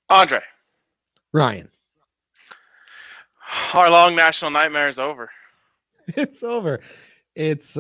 Andre, Ryan. our long national nightmare is over. It's over. It's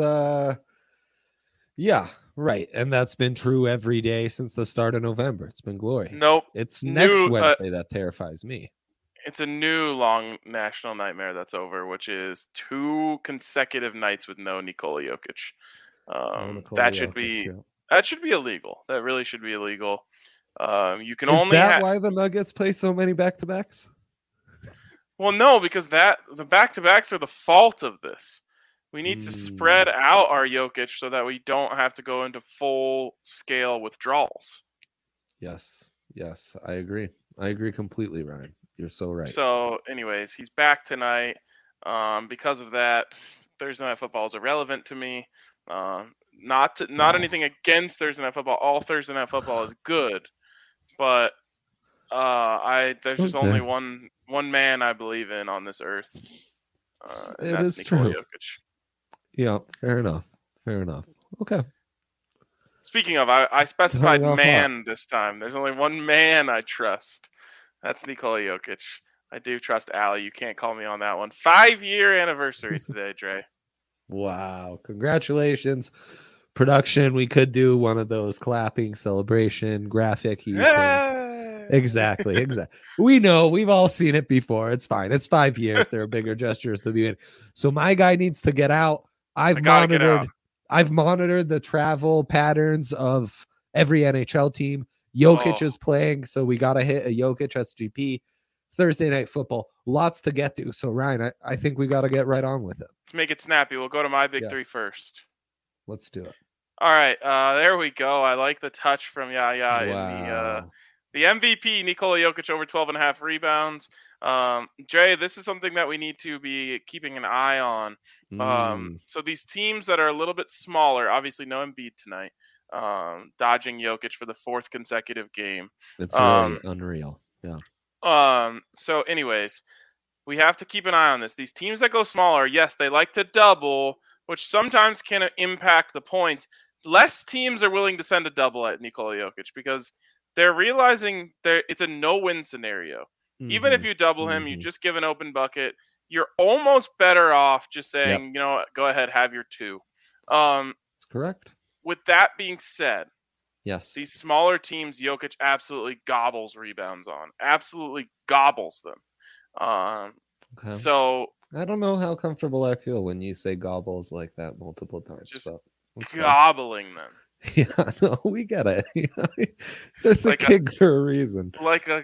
yeah, right. And that's been true every day since the start of November. It's been glorious. Nope. It's next Wednesday that terrifies me. It's a new long national nightmare that's over, which is 2 consecutive nights with no Nikola Jokic. That should be illegal. That really should be illegal. You can Is only that why the Nuggets play so many back-to-backs? Well, no, because the back-to-backs are the fault of this. We need to spread out our Jokic so that we don't have to go into full-scale withdrawals. Yes, I agree. I agree completely, Ryan. You're so right. So, anyways, he's back tonight. Because of that, Thursday Night Football is irrelevant to me. Not anything against Thursday Night Football. All Thursday Night Football is good, but there's just only one man I believe in on this earth. It is true. Jokic. Yeah, fair enough. Okay. Speaking of, I specified man this time. There's only one man I trust. That's Nikola Jokic. I do trust Allie. You can't call me on that one. 5-year anniversary today, Dre. Wow. Congratulations. Production, we could do one of those clapping celebration graphic things. Exactly. We know. We've all seen it before. It's fine. It's 5 years. There are bigger gestures to be in. So my guy needs to get out. I've monitored the travel patterns of every NHL team. Jokic is playing, so we got to hit a Jokic SGP. Thursday Night Football. Lots to get to. So, Ryan, I think we got to get right on with it. Let's make it snappy. We'll go to my big three first. Let's do it. All right. There we go. I like the touch from Yaya in the MVP, Nikola Jokic, over 12.5 rebounds. Jay, this is something that we need to be keeping an eye on. So these teams that are a little bit smaller, obviously no Embiid tonight, dodging Jokic for the 4th consecutive game. It's really unreal. Yeah. So anyways, we have to keep an eye on this. These teams that go smaller, yes, they like to double, which sometimes can impact the points. Less teams are willing to send a double at Nikola Jokic because they're realizing it's a no-win scenario. Even if you double him, you just give an open bucket. You're almost better off just saying, you know what, go ahead, have your 2. That's correct. With that being said, yes, these smaller teams, Jokic absolutely gobbles rebounds on. Absolutely gobbles them. Okay. So I don't know how comfortable I feel when you say gobbles like that multiple times. Just gobbling them. Yeah, no, we get it. There's a king for a reason. Like a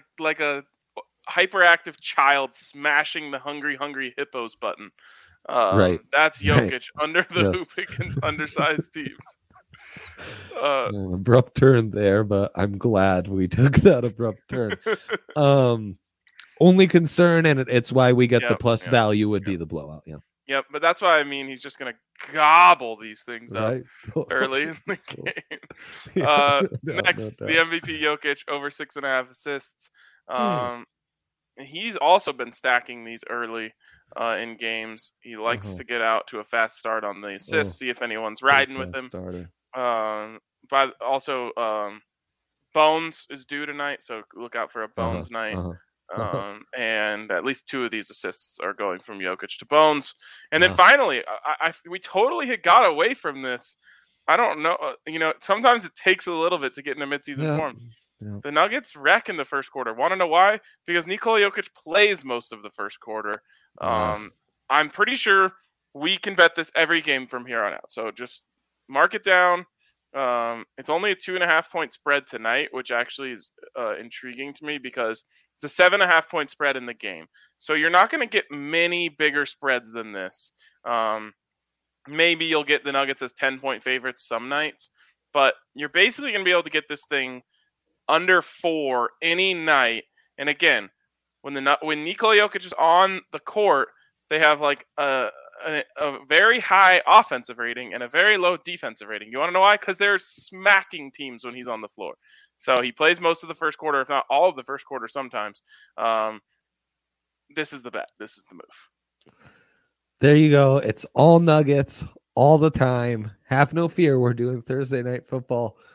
hyperactive child smashing the hungry hippos button. Right. That's Jokic under the hoop against undersized teams. Abrupt turn there, but I'm glad we took that abrupt turn. Only concern, and it's why we get the plus value, would be the blowout. Yeah. Yep, but that's why I mean he's just going to gobble these things up early in the game. Next, the MVP Jokic, over 6.5 assists. He's also been stacking these early in games. He likes to get out to a fast start on the assists, see if anyone's riding with him. But also, Bones is due tonight, so look out for a Bones night. And at least 2 of these assists are going from Jokic to Bones. And then finally, we totally had got away from this. I don't know. Sometimes it takes a little bit to get into midseason form. Yeah. The Nuggets wreck in the first quarter. Want to know why? Because Nikola Jokic plays most of the first quarter. I'm pretty sure we can bet this every game from here on out. So just mark it down. It's only a 2.5 point spread tonight, which actually is intriguing to me because it's a 7.5 point spread in the game. So you're not going to get many bigger spreads than this. Maybe you'll get the Nuggets as 10-point favorites some nights, but you're basically going to be able to get this thing under 4 any night. And again, when Nikola Jokic is on the court, they have like a very high offensive rating and a very low defensive rating. You want to know why? Because they're smacking teams when he's on the floor. So he plays most of the first quarter, if not all of the first quarter sometimes. This is the bet. This is the move. There you go. It's all Nuggets all the time. Have no fear. We're doing Thursday Night Football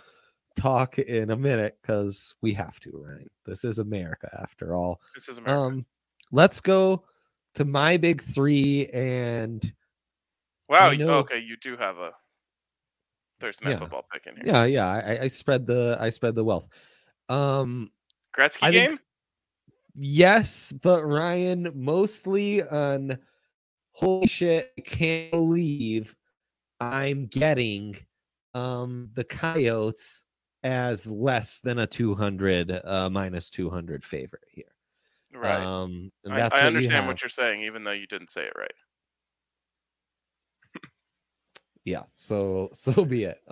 talk in a minute because we have to, Ryan. This is America after all. This is America. Let's go to my big three. And wow, okay, you do have a Thursday Night Football pick in here. Yeah. I spread the wealth. Gretzky game? Yes, but Ryan, mostly on holy shit, I can't believe I'm getting the Coyotes as less than a 200 minus 200 favorite here. Right. And that's I understand what you're saying, even though you didn't say it right. Yeah, so be it.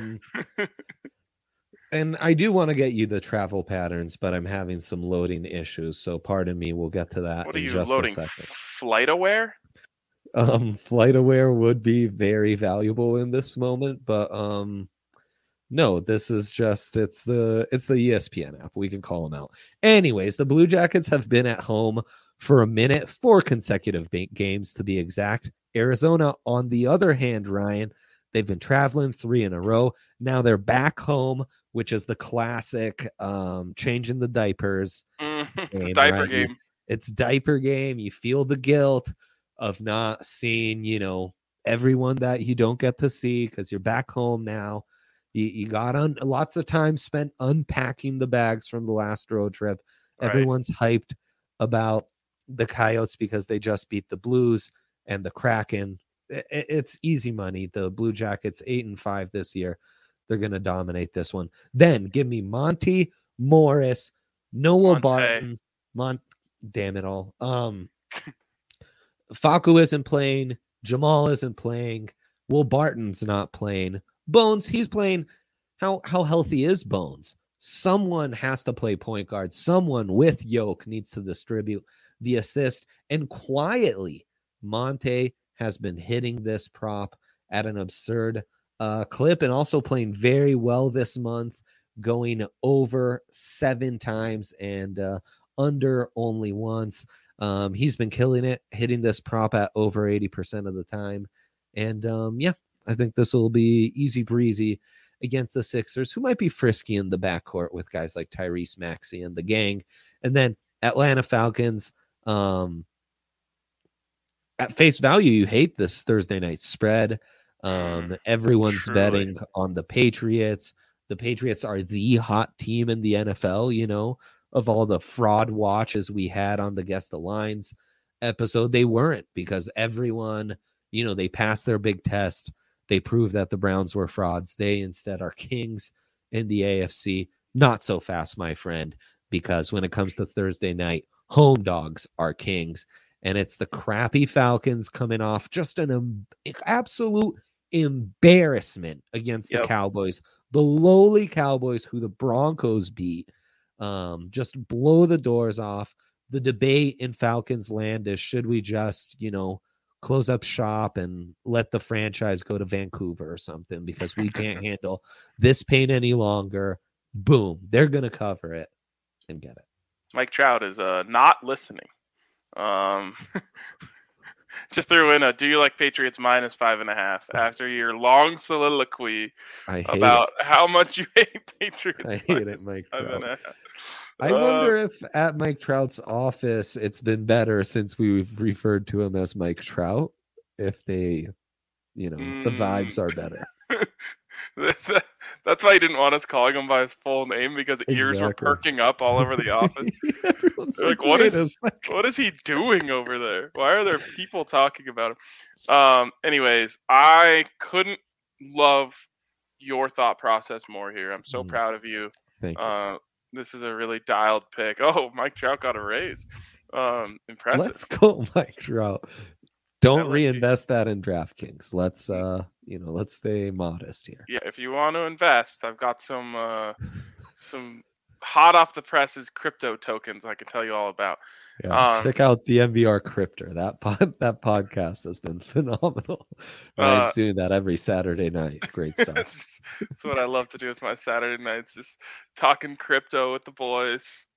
And I do want to get you the travel patterns, but I'm having some loading issues, so pardon me. We'll get to that in just a second. FlightAware? FlightAware would be very valuable in this moment, but no, this is just it's the ESPN app. We can call them out. Anyways, the Blue Jackets have been at home for a minute, 4 consecutive games to be exact. Arizona, on the other hand, Ryan, they've been traveling 3 in a row. Now they're back home, which is the classic changing the diapers. It's a diaper game. It's diaper game. You feel the guilt of not seeing, everyone that you don't get to see because you're back home now. You got lots of time spent unpacking the bags from the last road trip. Right. Everyone's hyped about the Coyotes because they just beat the Blues and the Kraken. It's easy money. The Blue Jackets 8-5 this year. They're going to dominate this one. Then give me Monty Morris, Noah Barton, damn it all. Facu isn't playing. Jamal isn't playing. Will Barton's not playing. Bones, he's playing. How healthy is Bones? Someone has to play point guard. Someone with Yoke needs to distribute the assist. And quietly, Monte has been hitting this prop at an absurd clip and also playing very well this month, going over 7 times and under only once. He's been killing it, hitting this prop at over 80% of the time. And I think this will be easy breezy against the Sixers, who might be frisky in the backcourt with guys like Tyrese Maxey and the gang. And then Atlanta Falcons, at face value, you hate this Thursday night spread. Everyone's betting on the Patriots. The Patriots are the hot team in the NFL, of all the fraud watches we had on the Guess the Lines episode. They weren't, because everyone, they passed their big test. They proved that the Browns were frauds. They instead are kings in the AFC. Not so fast, my friend, because when it comes to Thursday night, home dogs are kings. And it's the crappy Falcons coming off just an absolute embarrassment against the Cowboys. The lowly Cowboys, who the Broncos beat, just blow the doors off. The debate in Falcons land is, should we just, close up shop and let the franchise go to Vancouver or something, because we can't handle this pain any longer. Boom. They're going to cover it and get it. Mike Trout is not listening. Just threw in do you like Patriots minus 5.5 after your long soliloquy about how much you hate Patriots? I hate it, Mike Trout. I wonder if at Mike Trout's office it's been better since we've referred to him as Mike Trout. If they, the vibes are better. That's why he didn't want us calling him by his full name, because ears were perking up all over the office. Like, what is he doing over there? Why are there people talking about him? Anyways, I couldn't love your thought process more here. I'm so proud of you. Thank you. This is a really dialed pick. Oh, Mike Trout got a raise. Impressive. Let's go, Mike Trout. Don't reinvest that in DraftKings. Let's let's stay modest here. Yeah, if you want to invest, I've got some hot off the presses crypto tokens I can tell you all about. Yeah, check out the MVR Crypter. That podcast has been phenomenal. Ryan's doing that every Saturday night. Great stuff. That's what I love to do with my Saturday nights, just talking crypto with the boys.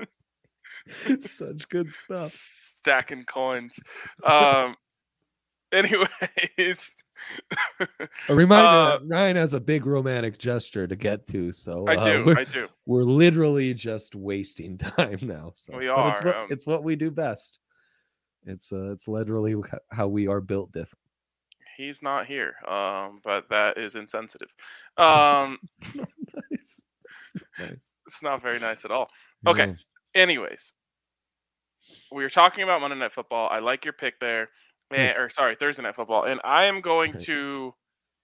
Such good stuff. Stacking coins. Anyways, a reminder that Ryan has a big romantic gesture to get to, so I do. We're literally just wasting time now. So we are. But it's what we do best. It's literally how we are built different. He's not here, but that is insensitive. It's not nice. Nice. It's not very nice at all. Okay. No. Anyways, we were talking about Monday Night Football. I like your pick there. Thursday Night Football. And I am going to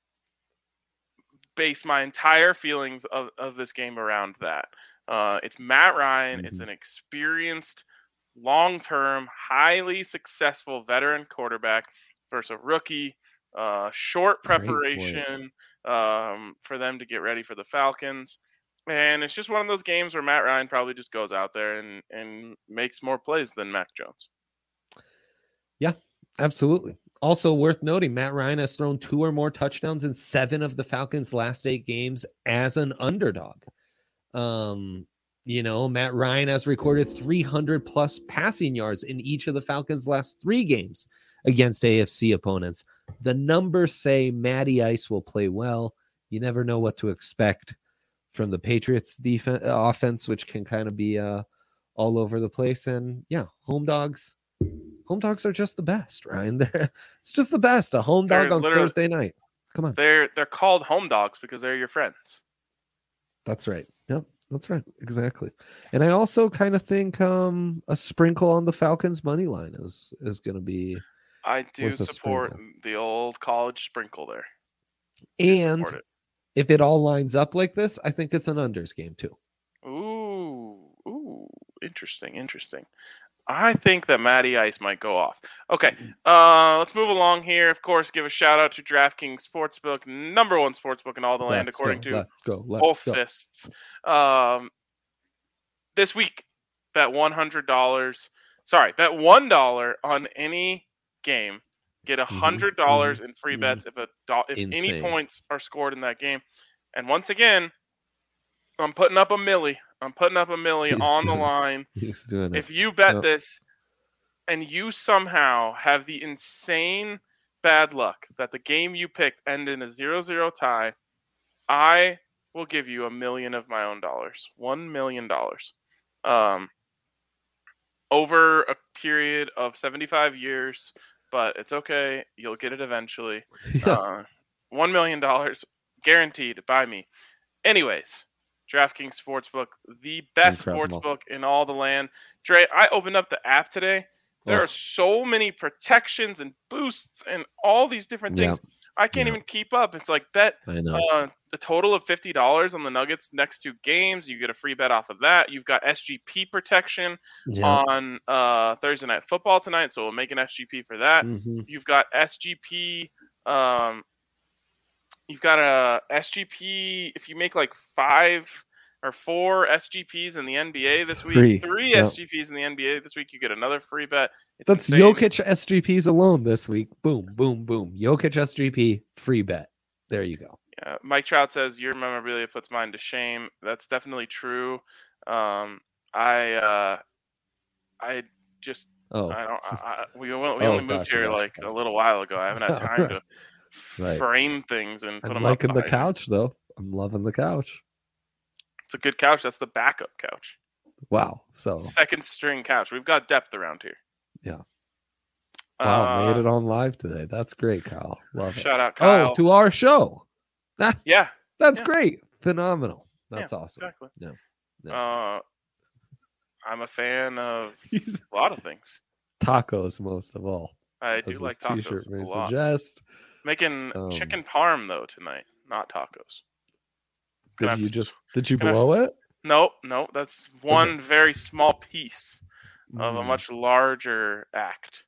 base my entire feelings of this game around that. It's Matt Ryan. Mm-hmm. It's an experienced, long-term, highly successful veteran quarterback versus a rookie. Short preparation for them to get ready for the Falcons. And it's just one of those games where Matt Ryan probably just goes out there and makes more plays than Mac Jones. Yeah, absolutely. Also worth noting, Matt Ryan has thrown 2 or more touchdowns in 7 of the Falcons' last 8 games as an underdog. Matt Ryan has recorded 300 plus passing yards in each of the Falcons' last 3 games against AFC opponents. The numbers say Matty Ice will play well. You never know what to expect from the Patriots offense, which can kind of be all over the place. And yeah, home dogs are just the best, Ryan. It's just the best. A home dog on Thursday night. Come on. They're called home dogs because they're your friends. That's right. Yep. That's right. Exactly. And I also kind of think a sprinkle on the Falcons money line is going to be. I do support the old college sprinkle there. And if it all lines up like this, I think it's an unders game too. Ooh, interesting. I think that Matty Ice might go off. Okay, let's move along here. Of course, give a shout out to DraftKings Sportsbook, number 1 sportsbook in all the land, according to both fists. This week, bet $100. Sorry, bet $1 on any game. Get $100 in free bets if any points are scored in that game. And once again, I'm putting up a milli. On the line. He's doing it. If you bet this and you somehow have the insane bad luck that the game you picked end in a 0-0 tie, I will give you $1 million of my own dollars. $1 million. Over a period of 75 years, but it's okay. You'll get it eventually. $1 million guaranteed by me. Anyways, DraftKings Sportsbook, the best sportsbook in all the land. Dre, I opened up the app today. There are so many protections and boosts and all these different things. I can't even keep up. It's like bet a total of $50 on the Nuggets next 2 games. You get a free bet off of that. You've got SGP protection on Thursday Night Football tonight, so we'll make an SGP for that. Mm-hmm. You've got SGP. You've got a SGP if you make like 5 or 4 SGPs in the NBA this week. 3 SGPs in the NBA this week. You get another free bet. That's insane. Jokic SGPs alone this week. Boom, boom, boom. Jokic SGP free bet. There you go. Yeah. Mike Trout says your memorabilia puts mine to shame. That's definitely true. I just we only moved here a little while ago. I haven't had time to frame things and put them up. I'm liking the couch though. I'm loving the couch. It's a good couch. That's the backup couch. Wow. So second string couch. We've got depth around here. Yeah. Wow, made it on live today. That's great, Kyle. Love it. Shout out, Kyle. Oh, to our show. That's That's great. Phenomenal. That's awesome. Exactly. No. I'm a fan of a lot of things. Tacos, most of all. I do like tacos. T-shirt may suggest. Making chicken parm though tonight, not tacos. Did you blow it? No. That's one very small piece of a much larger act.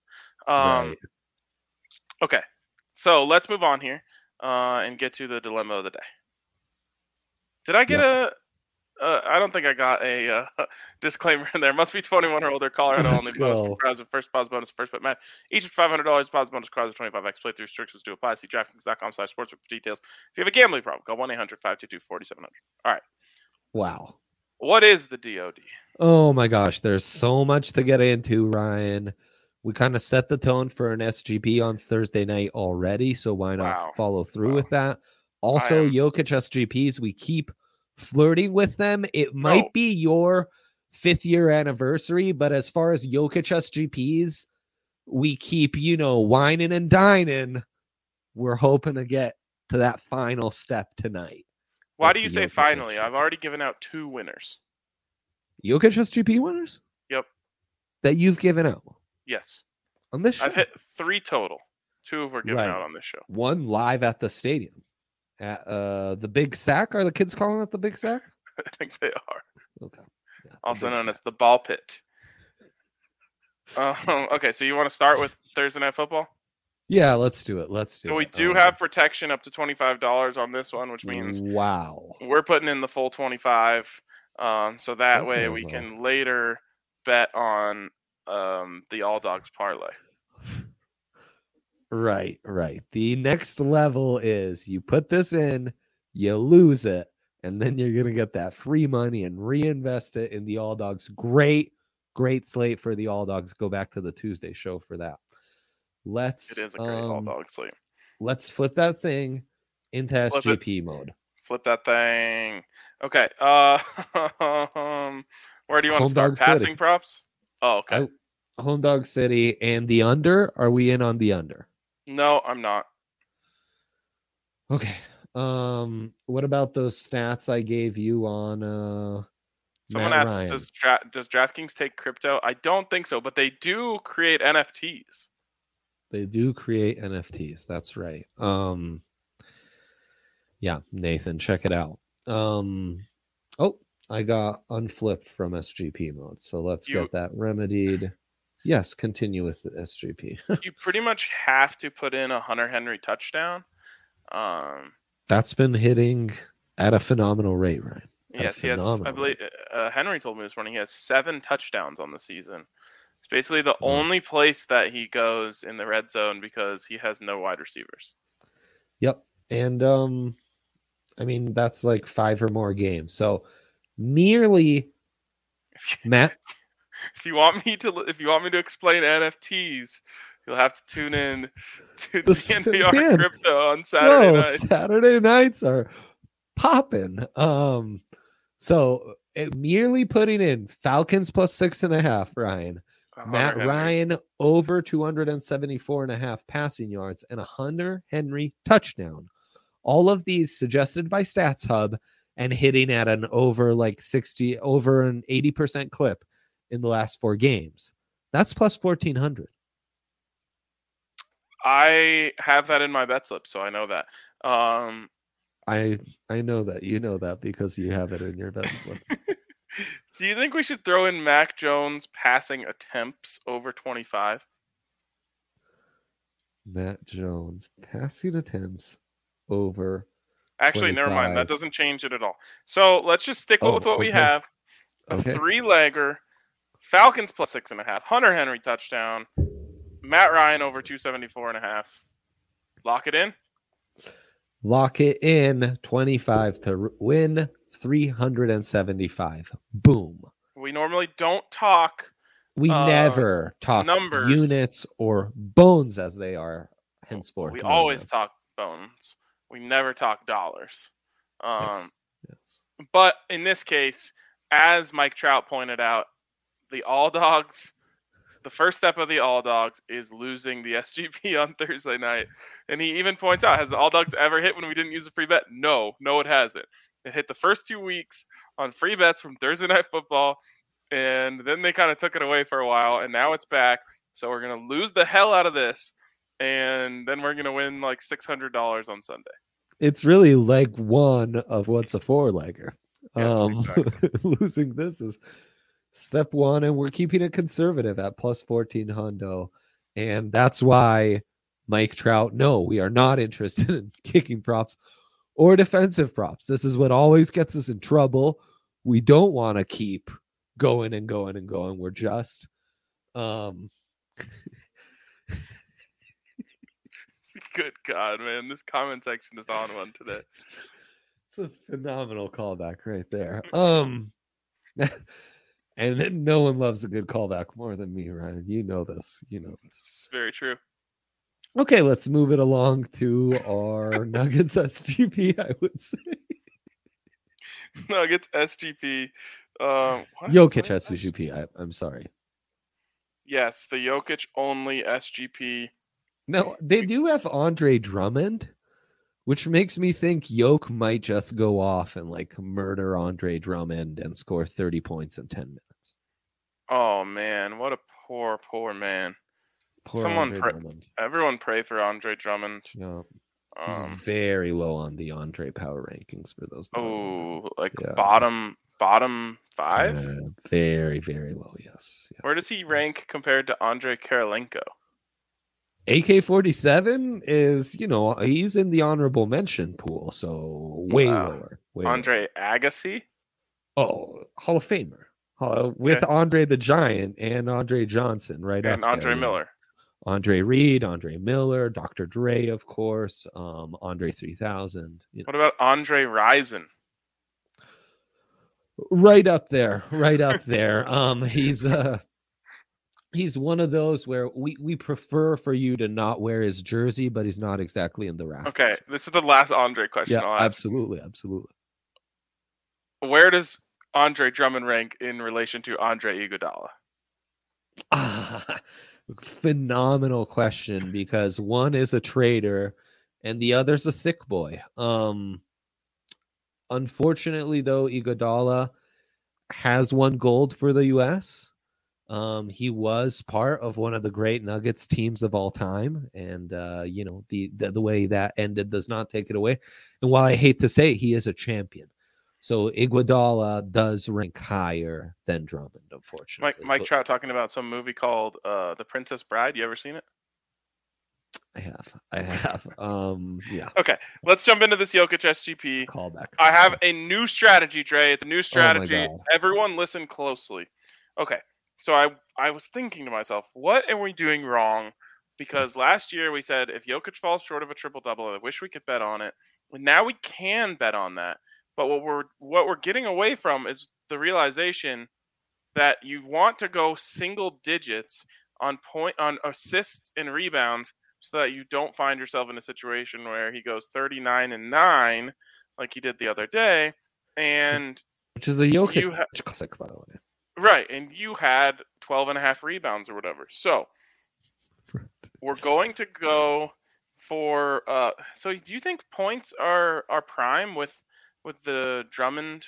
Okay, so let's move on here and get to the dilemma of the day. Did I get I don't think I got a disclaimer in there. Must be 21 or older. Colorado only. Bonus comprised of first pause bonus, first bet match. Each of $500. Pause bonus requires 25x playthrough. Restrictions do apply. See DraftKings.com/sportsbook for details. If you have a gambling problem, call 1-800-522-4700. All right. Wow. What is the DOD? Oh my gosh, there's so much to get into, Ryan. We kind of set the tone for an SGP on Thursday night already, so why not follow through with that? Also, Jokic SGPs, we keep flirting with them. It might be your 5th year anniversary, but as far as Jokic SGPs, we keep, whining and dining. We're hoping to get to that final step tonight. Why do you say finally? I've already given out 2 winners. Jokic SGP winners? Yep. That you've given out? Yes. On this show? I've hit 3 total. 2 were given out on this show. 1 live at the stadium. At the Big Sack? Are the kids calling it the Big Sack? I think they are. Okay. Yeah, also known as the Ball Pit. Okay, so you want to start with Thursday Night Football? Yeah, let's do it. So we do have protection up to $25 on this one, which means we're putting in the full 25. So that way we can later bet on the All Dogs parlay. Right. The next level is you put this in, you lose it, and then you're going to get that free money and reinvest it in the All Dogs. Great slate for the All Dogs. Go back to the Tuesday show for that. It is a great All Dog slate. Let's flip that thing into SGP mode. Flip that thing. Okay. Where do you want to start? Passing props? Oh, okay. Home Dog City and the under. Are we in on the under? No, I'm not. Okay. What about those stats I gave you on Someone asked, does DraftKings take crypto? I don't think so, but they do create NFTs. They do create NFTs. That's right. Yeah, Nathan, check it out. I got unflipped from SGP mode. So let's get that remedied. Yes, continue with the SGP. You pretty much have to put in a Hunter Henry touchdown. That's been hitting at a phenomenal rate, right? Yes, he has. I believe Henry told me this morning he has 7 touchdowns on the season. It's basically the only place that he goes in the red zone because he has no wide receivers. Yep, and I mean that's like 5 or more games. So merely, Matt. If you want me to explain NFTs, you'll have to tune in to the NPR Crypto on Saturday nights. Saturday nights are popping. So merely putting in Falcons plus 6.5, Ryan. Matt Ryan over 274.5 passing yards and a Hunter Henry touchdown. All of these suggested by Stats Hub and hitting at an over an 80% clip in the last 4 games. That's plus 1,400. I have that in my bet slip, so I know that. I know that. You know that because you have it in your bet slip. Do you think we should throw in Mac Jones passing attempts over 25? Matt Jones passing attempts over Actually, 25. Never mind. That doesn't change it at all. So let's just stick with what we have. A 3-legger. Falcons plus 6.5. Hunter Henry touchdown. Matt Ryan over 274.5. Lock it in? Lock it in. 25 to win. 375. Boom. We normally don't talk. We never talk numbers, units, or bones as they are henceforth. We always talk bones. We never talk dollars. Yes. But in this case, as Mike Trout pointed out, the All Dogs, the first step of the All Dogs is losing the SGP on Thursday night. And he even points out, has the All Dogs ever hit when we didn't use a free bet? No, it hasn't. It hit the first 2 weeks on free bets from Thursday Night Football, and then they kind of took it away for a while, and now it's back. So we're going to lose the hell out of this, and then we're going to win like $600 on Sunday. It's really leg 1 of what's a 4-legger. Yes, exactly. Losing this is step 1, and we're keeping it conservative at plus 1,400. And that's why Mike Trout, no, we are not interested in kicking props or defensive props. This is what always gets us in trouble. We don't want to keep going and going and going. We're just good God, man. This comment section is on one today. It's a phenomenal callback right there. And no one loves a good callback more than me, Ryan. You know this. You know this. It's very true. Okay, let's move it along to our Nuggets SGP, I would say. Nuggets SGP. Jokic SGP. I'm sorry. Yes, the Jokic only SGP. No, they do have Andre Drummond, which makes me think Yoke might just go off and like murder Andre Drummond and score 30 points in 10 minutes. Oh man, what a poor man. Everyone pray for Andre Drummond. Yeah. He's very low on the Andre power rankings for those. Bottom 5? Very, very low, yes. Where does he rank compared to Andre Kirilenko? AK-47 is, he's in the honorable mention pool, so way lower. Andre Agassi? Oh, Hall of Famer. With Andre the Giant and Andre Johnson, right? And Andre Miller. Andre Reed, Andre Miller, Dr. Dre, of course, Andre 3000. What about Andre Rison? Right up there. He's one of those where we prefer for you to not wear his jersey, but he's not exactly in the rafters. Okay, this is the last Andre question. Yeah, absolutely. Where does Andre Drummond rank in relation to Andre Iguodala? Phenomenal question, because one is a trader and the other's a thick boy. Unfortunately, though, Iguodala has won gold for the U.S. He was part of one of the great Nuggets teams of all time, and the way that ended does not take it away. And while I hate to say it, he is a champion. So Iguodala does rank higher than Drummond, unfortunately. Mike Trout talking about some movie called The Princess Bride. You ever seen it? I have. Yeah. Okay, let's jump into this Jokic SGP. Callback. I have a new strategy, Dre. It's a new strategy. Everyone listen closely. Okay, so I was thinking to myself, what are we doing wrong? Because last year we said if Jokic falls short of a triple-double, I wish we could bet on it. And now we can bet on that. But what we're getting away from is the realization that you want to go single digits on assists and rebounds so that you don't find yourself in a situation where he goes 39-9 like he did the other day, and which is a Jokic classic, by the way. Right, and you had 12.5 rebounds or whatever. So we're going to go for. So do you think points are prime with the Drummond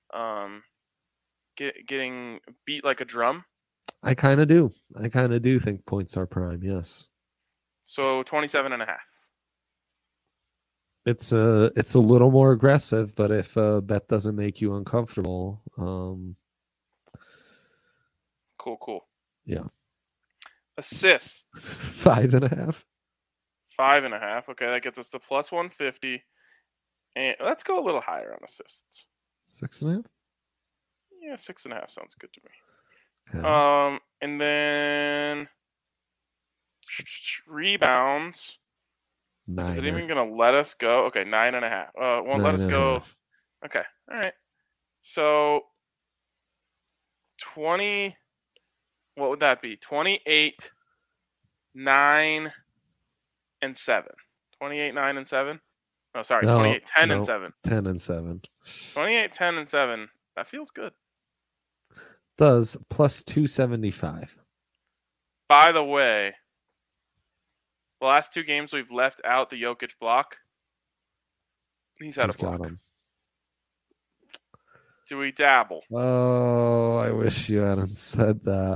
getting beat like a drum? I kind of do. I kind of do think points are prime, yes. So 27.5. It's a little more aggressive, but if a bet doesn't make you uncomfortable, cool. Yeah. Assists. 5.5. 5.5. Okay, that gets us to plus 150. And let's go a little higher on assists. 6.5? Yeah, 6.5 sounds good to me. Okay. And then rebounds. 9. Is it even going to let us go? Okay, 9.5. Won't let us go. Okay, all right. So 20. What would that be? 28, 9, and 7. 28, 9, and 7. Oh, sorry, 28, 10, and 7. 10 and 7. 28, 10, and 7. That feels good. Does plus 275. By the way, the last 2 games we've left out the Jokic block. He's had a block. Got him. Do we dabble? Oh, I wish you hadn't said that.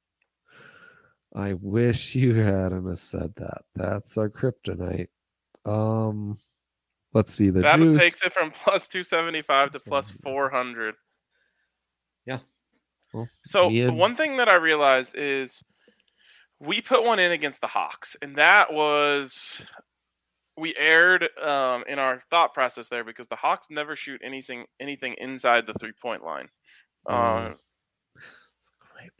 I wish you hadn't said that. That's our kryptonite. Let's see. The that juice takes it from plus 275 to plus 400. Yeah. Well, so one thing that I realized is we put one in against the Hawks, and that was we erred in our thought process there because the Hawks never shoot anything inside the 3-point line. That's a great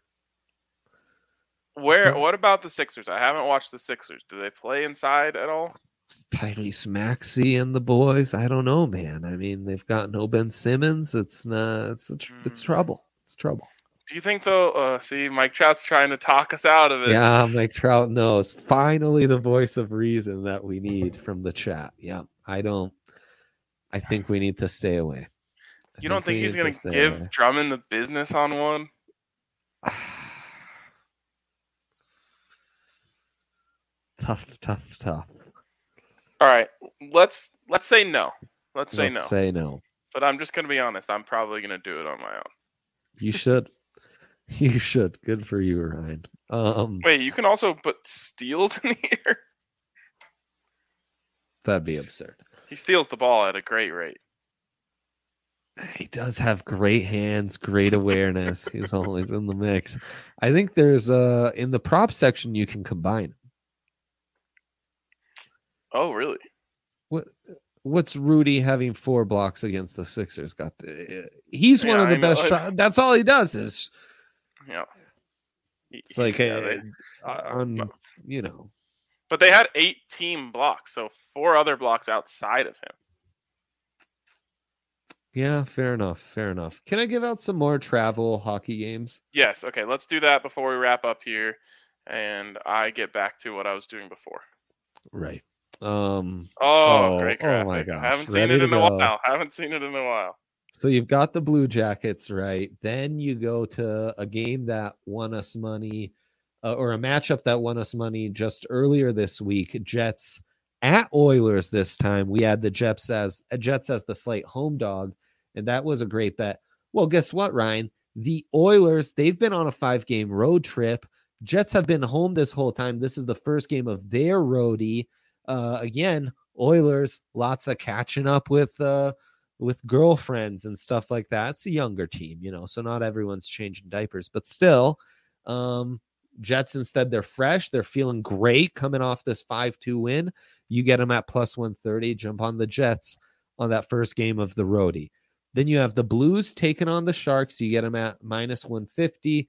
point. What about the Sixers? I haven't watched the Sixers. Do they play inside at all? It's Tyrese Maxey and the boys. I don't know, man. I mean, they've got no Ben Simmons. It's trouble. It's trouble. Do you think though? See, Mike Trout's trying to talk us out of it. Yeah, Mike Trout knows. Finally, the voice of reason that we need from the chat. Yeah, I think we need to stay away. You don't think he's going to give Drummond the business on one? Tough. All right, let's say no. Let's say no. But I'm just going to be honest. I'm probably going to do it on my own. You should. You should. Good for you, Ryan. Wait, you can also put steals in here? That'd be absurd. He steals the ball at a great rate. He does have great hands, great awareness. He's always in the mix. I think there's in the prop section you can combine. Oh, really? What's Rudy having 4 blocks against the Sixers? He's one of the best shots. That's all he does is. Yeah. It's like But they had 8 team blocks, so 4 other blocks outside of him. Yeah, fair enough. Can I give out some more travel hockey games? Yes. Okay, let's do that before we wrap up here, and I get back to what I was doing before. Right. Great graphic. Oh my gosh. I haven't seen it in a while. So you've got the Blue Jackets, right? Then you go to a game that won us money, or a matchup that won us money just earlier this week. Jets at Oilers this time. We had the Jets as the slight home dog, and that was a great bet. Well, guess what, Ryan? The Oilers, they've been on a 5-game road trip. Jets have been home this whole time. This is the first game of their roadie. Again, Oilers, lots of catching up with girlfriends and stuff like that. It's a younger team, so not everyone's changing diapers, but still, Jets instead, they're fresh. They're feeling great coming off this 5-2 win. You get them at plus 130. Jump on the Jets on that first game of the roadie. Then you have the Blues taking on the Sharks. You get them at minus 150.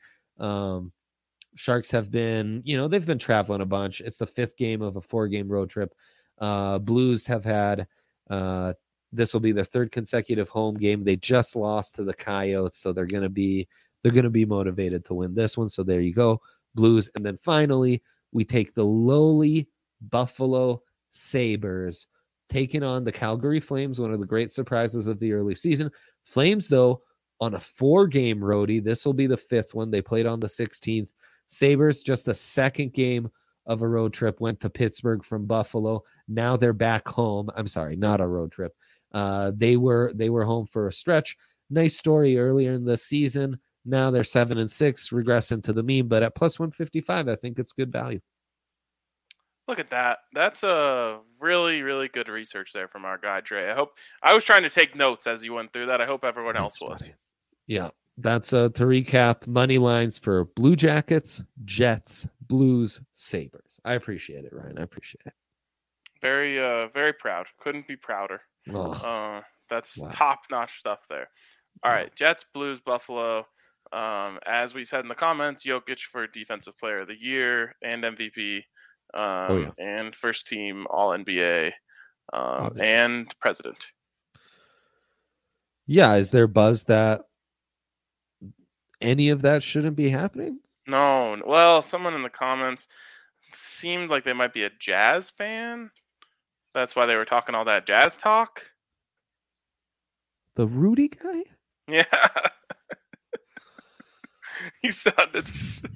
Sharks have been, they've been traveling a bunch. It's the 5th game of a 4-game road trip. Blues have had, this will be their 3rd consecutive home game. They just lost to the Coyotes, so they're going to be motivated to win this one. So there you go, Blues. And then finally, we take the lowly Buffalo Sabres taking on the Calgary Flames, one of the great surprises of the early season. Flames, though, on a 4-game roadie. This will be the 5th one. They played on the 16th. Sabres, just the 2nd game of a road trip, went to Pittsburgh from Buffalo. Now they're back home. I'm sorry, not a road trip. They were home for a stretch. Nice story earlier in the season. Now they're 7-6, regressing to the mean, but at plus 155, I think it's good value. Look at that. That's a really, really good research there from our guy, Dre. I was trying to take notes as you went through that. I hope everyone else was. Yeah. That's to recap money lines for Blue Jackets, Jets, Blues, Sabres. I appreciate it, Ryan. I appreciate it. Very, very proud. Couldn't be prouder. That's top-notch stuff there. All right, Jets, Blues, Buffalo. As we said in the comments, Jokic for Defensive Player of the Year and MVP, and first team All-NBA, and President. Yeah, is there buzz that any of that shouldn't be happening? No. Well, someone in the comments seemed like they might be a Jazz fan. That's why they were talking all that Jazz talk. The Rudy guy? Yeah. You sounded so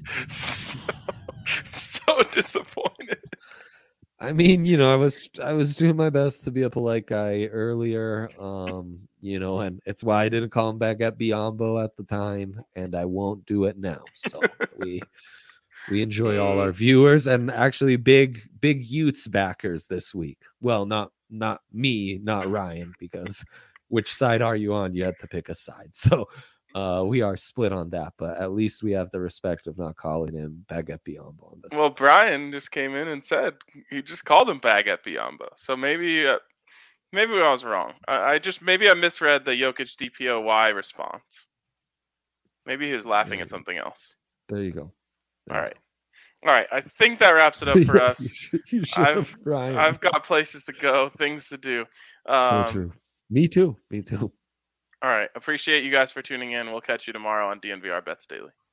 disappointed. I mean, I was doing my best to be a polite guy earlier, and it's why I didn't call him Baguette Biombo at the time, and I won't do it now. So we enjoy all our viewers and actually big Utes backers this week. Well, not me, not Ryan, because which side are you on? You had to pick a side. So we are split on that, but at least we have the respect of not calling him Baguette Biombo on this. Well, Brian just came in and said he just called him Baguette Biombo. So maybe I was wrong. I misread the Jokic DPOY response. Maybe he was laughing at something else. There you go. All right. I think that wraps it up for us. You I've got places to go, things to do. So true. Me too. All right. Appreciate you guys for tuning in. We'll catch you tomorrow on DNVR Bets Daily.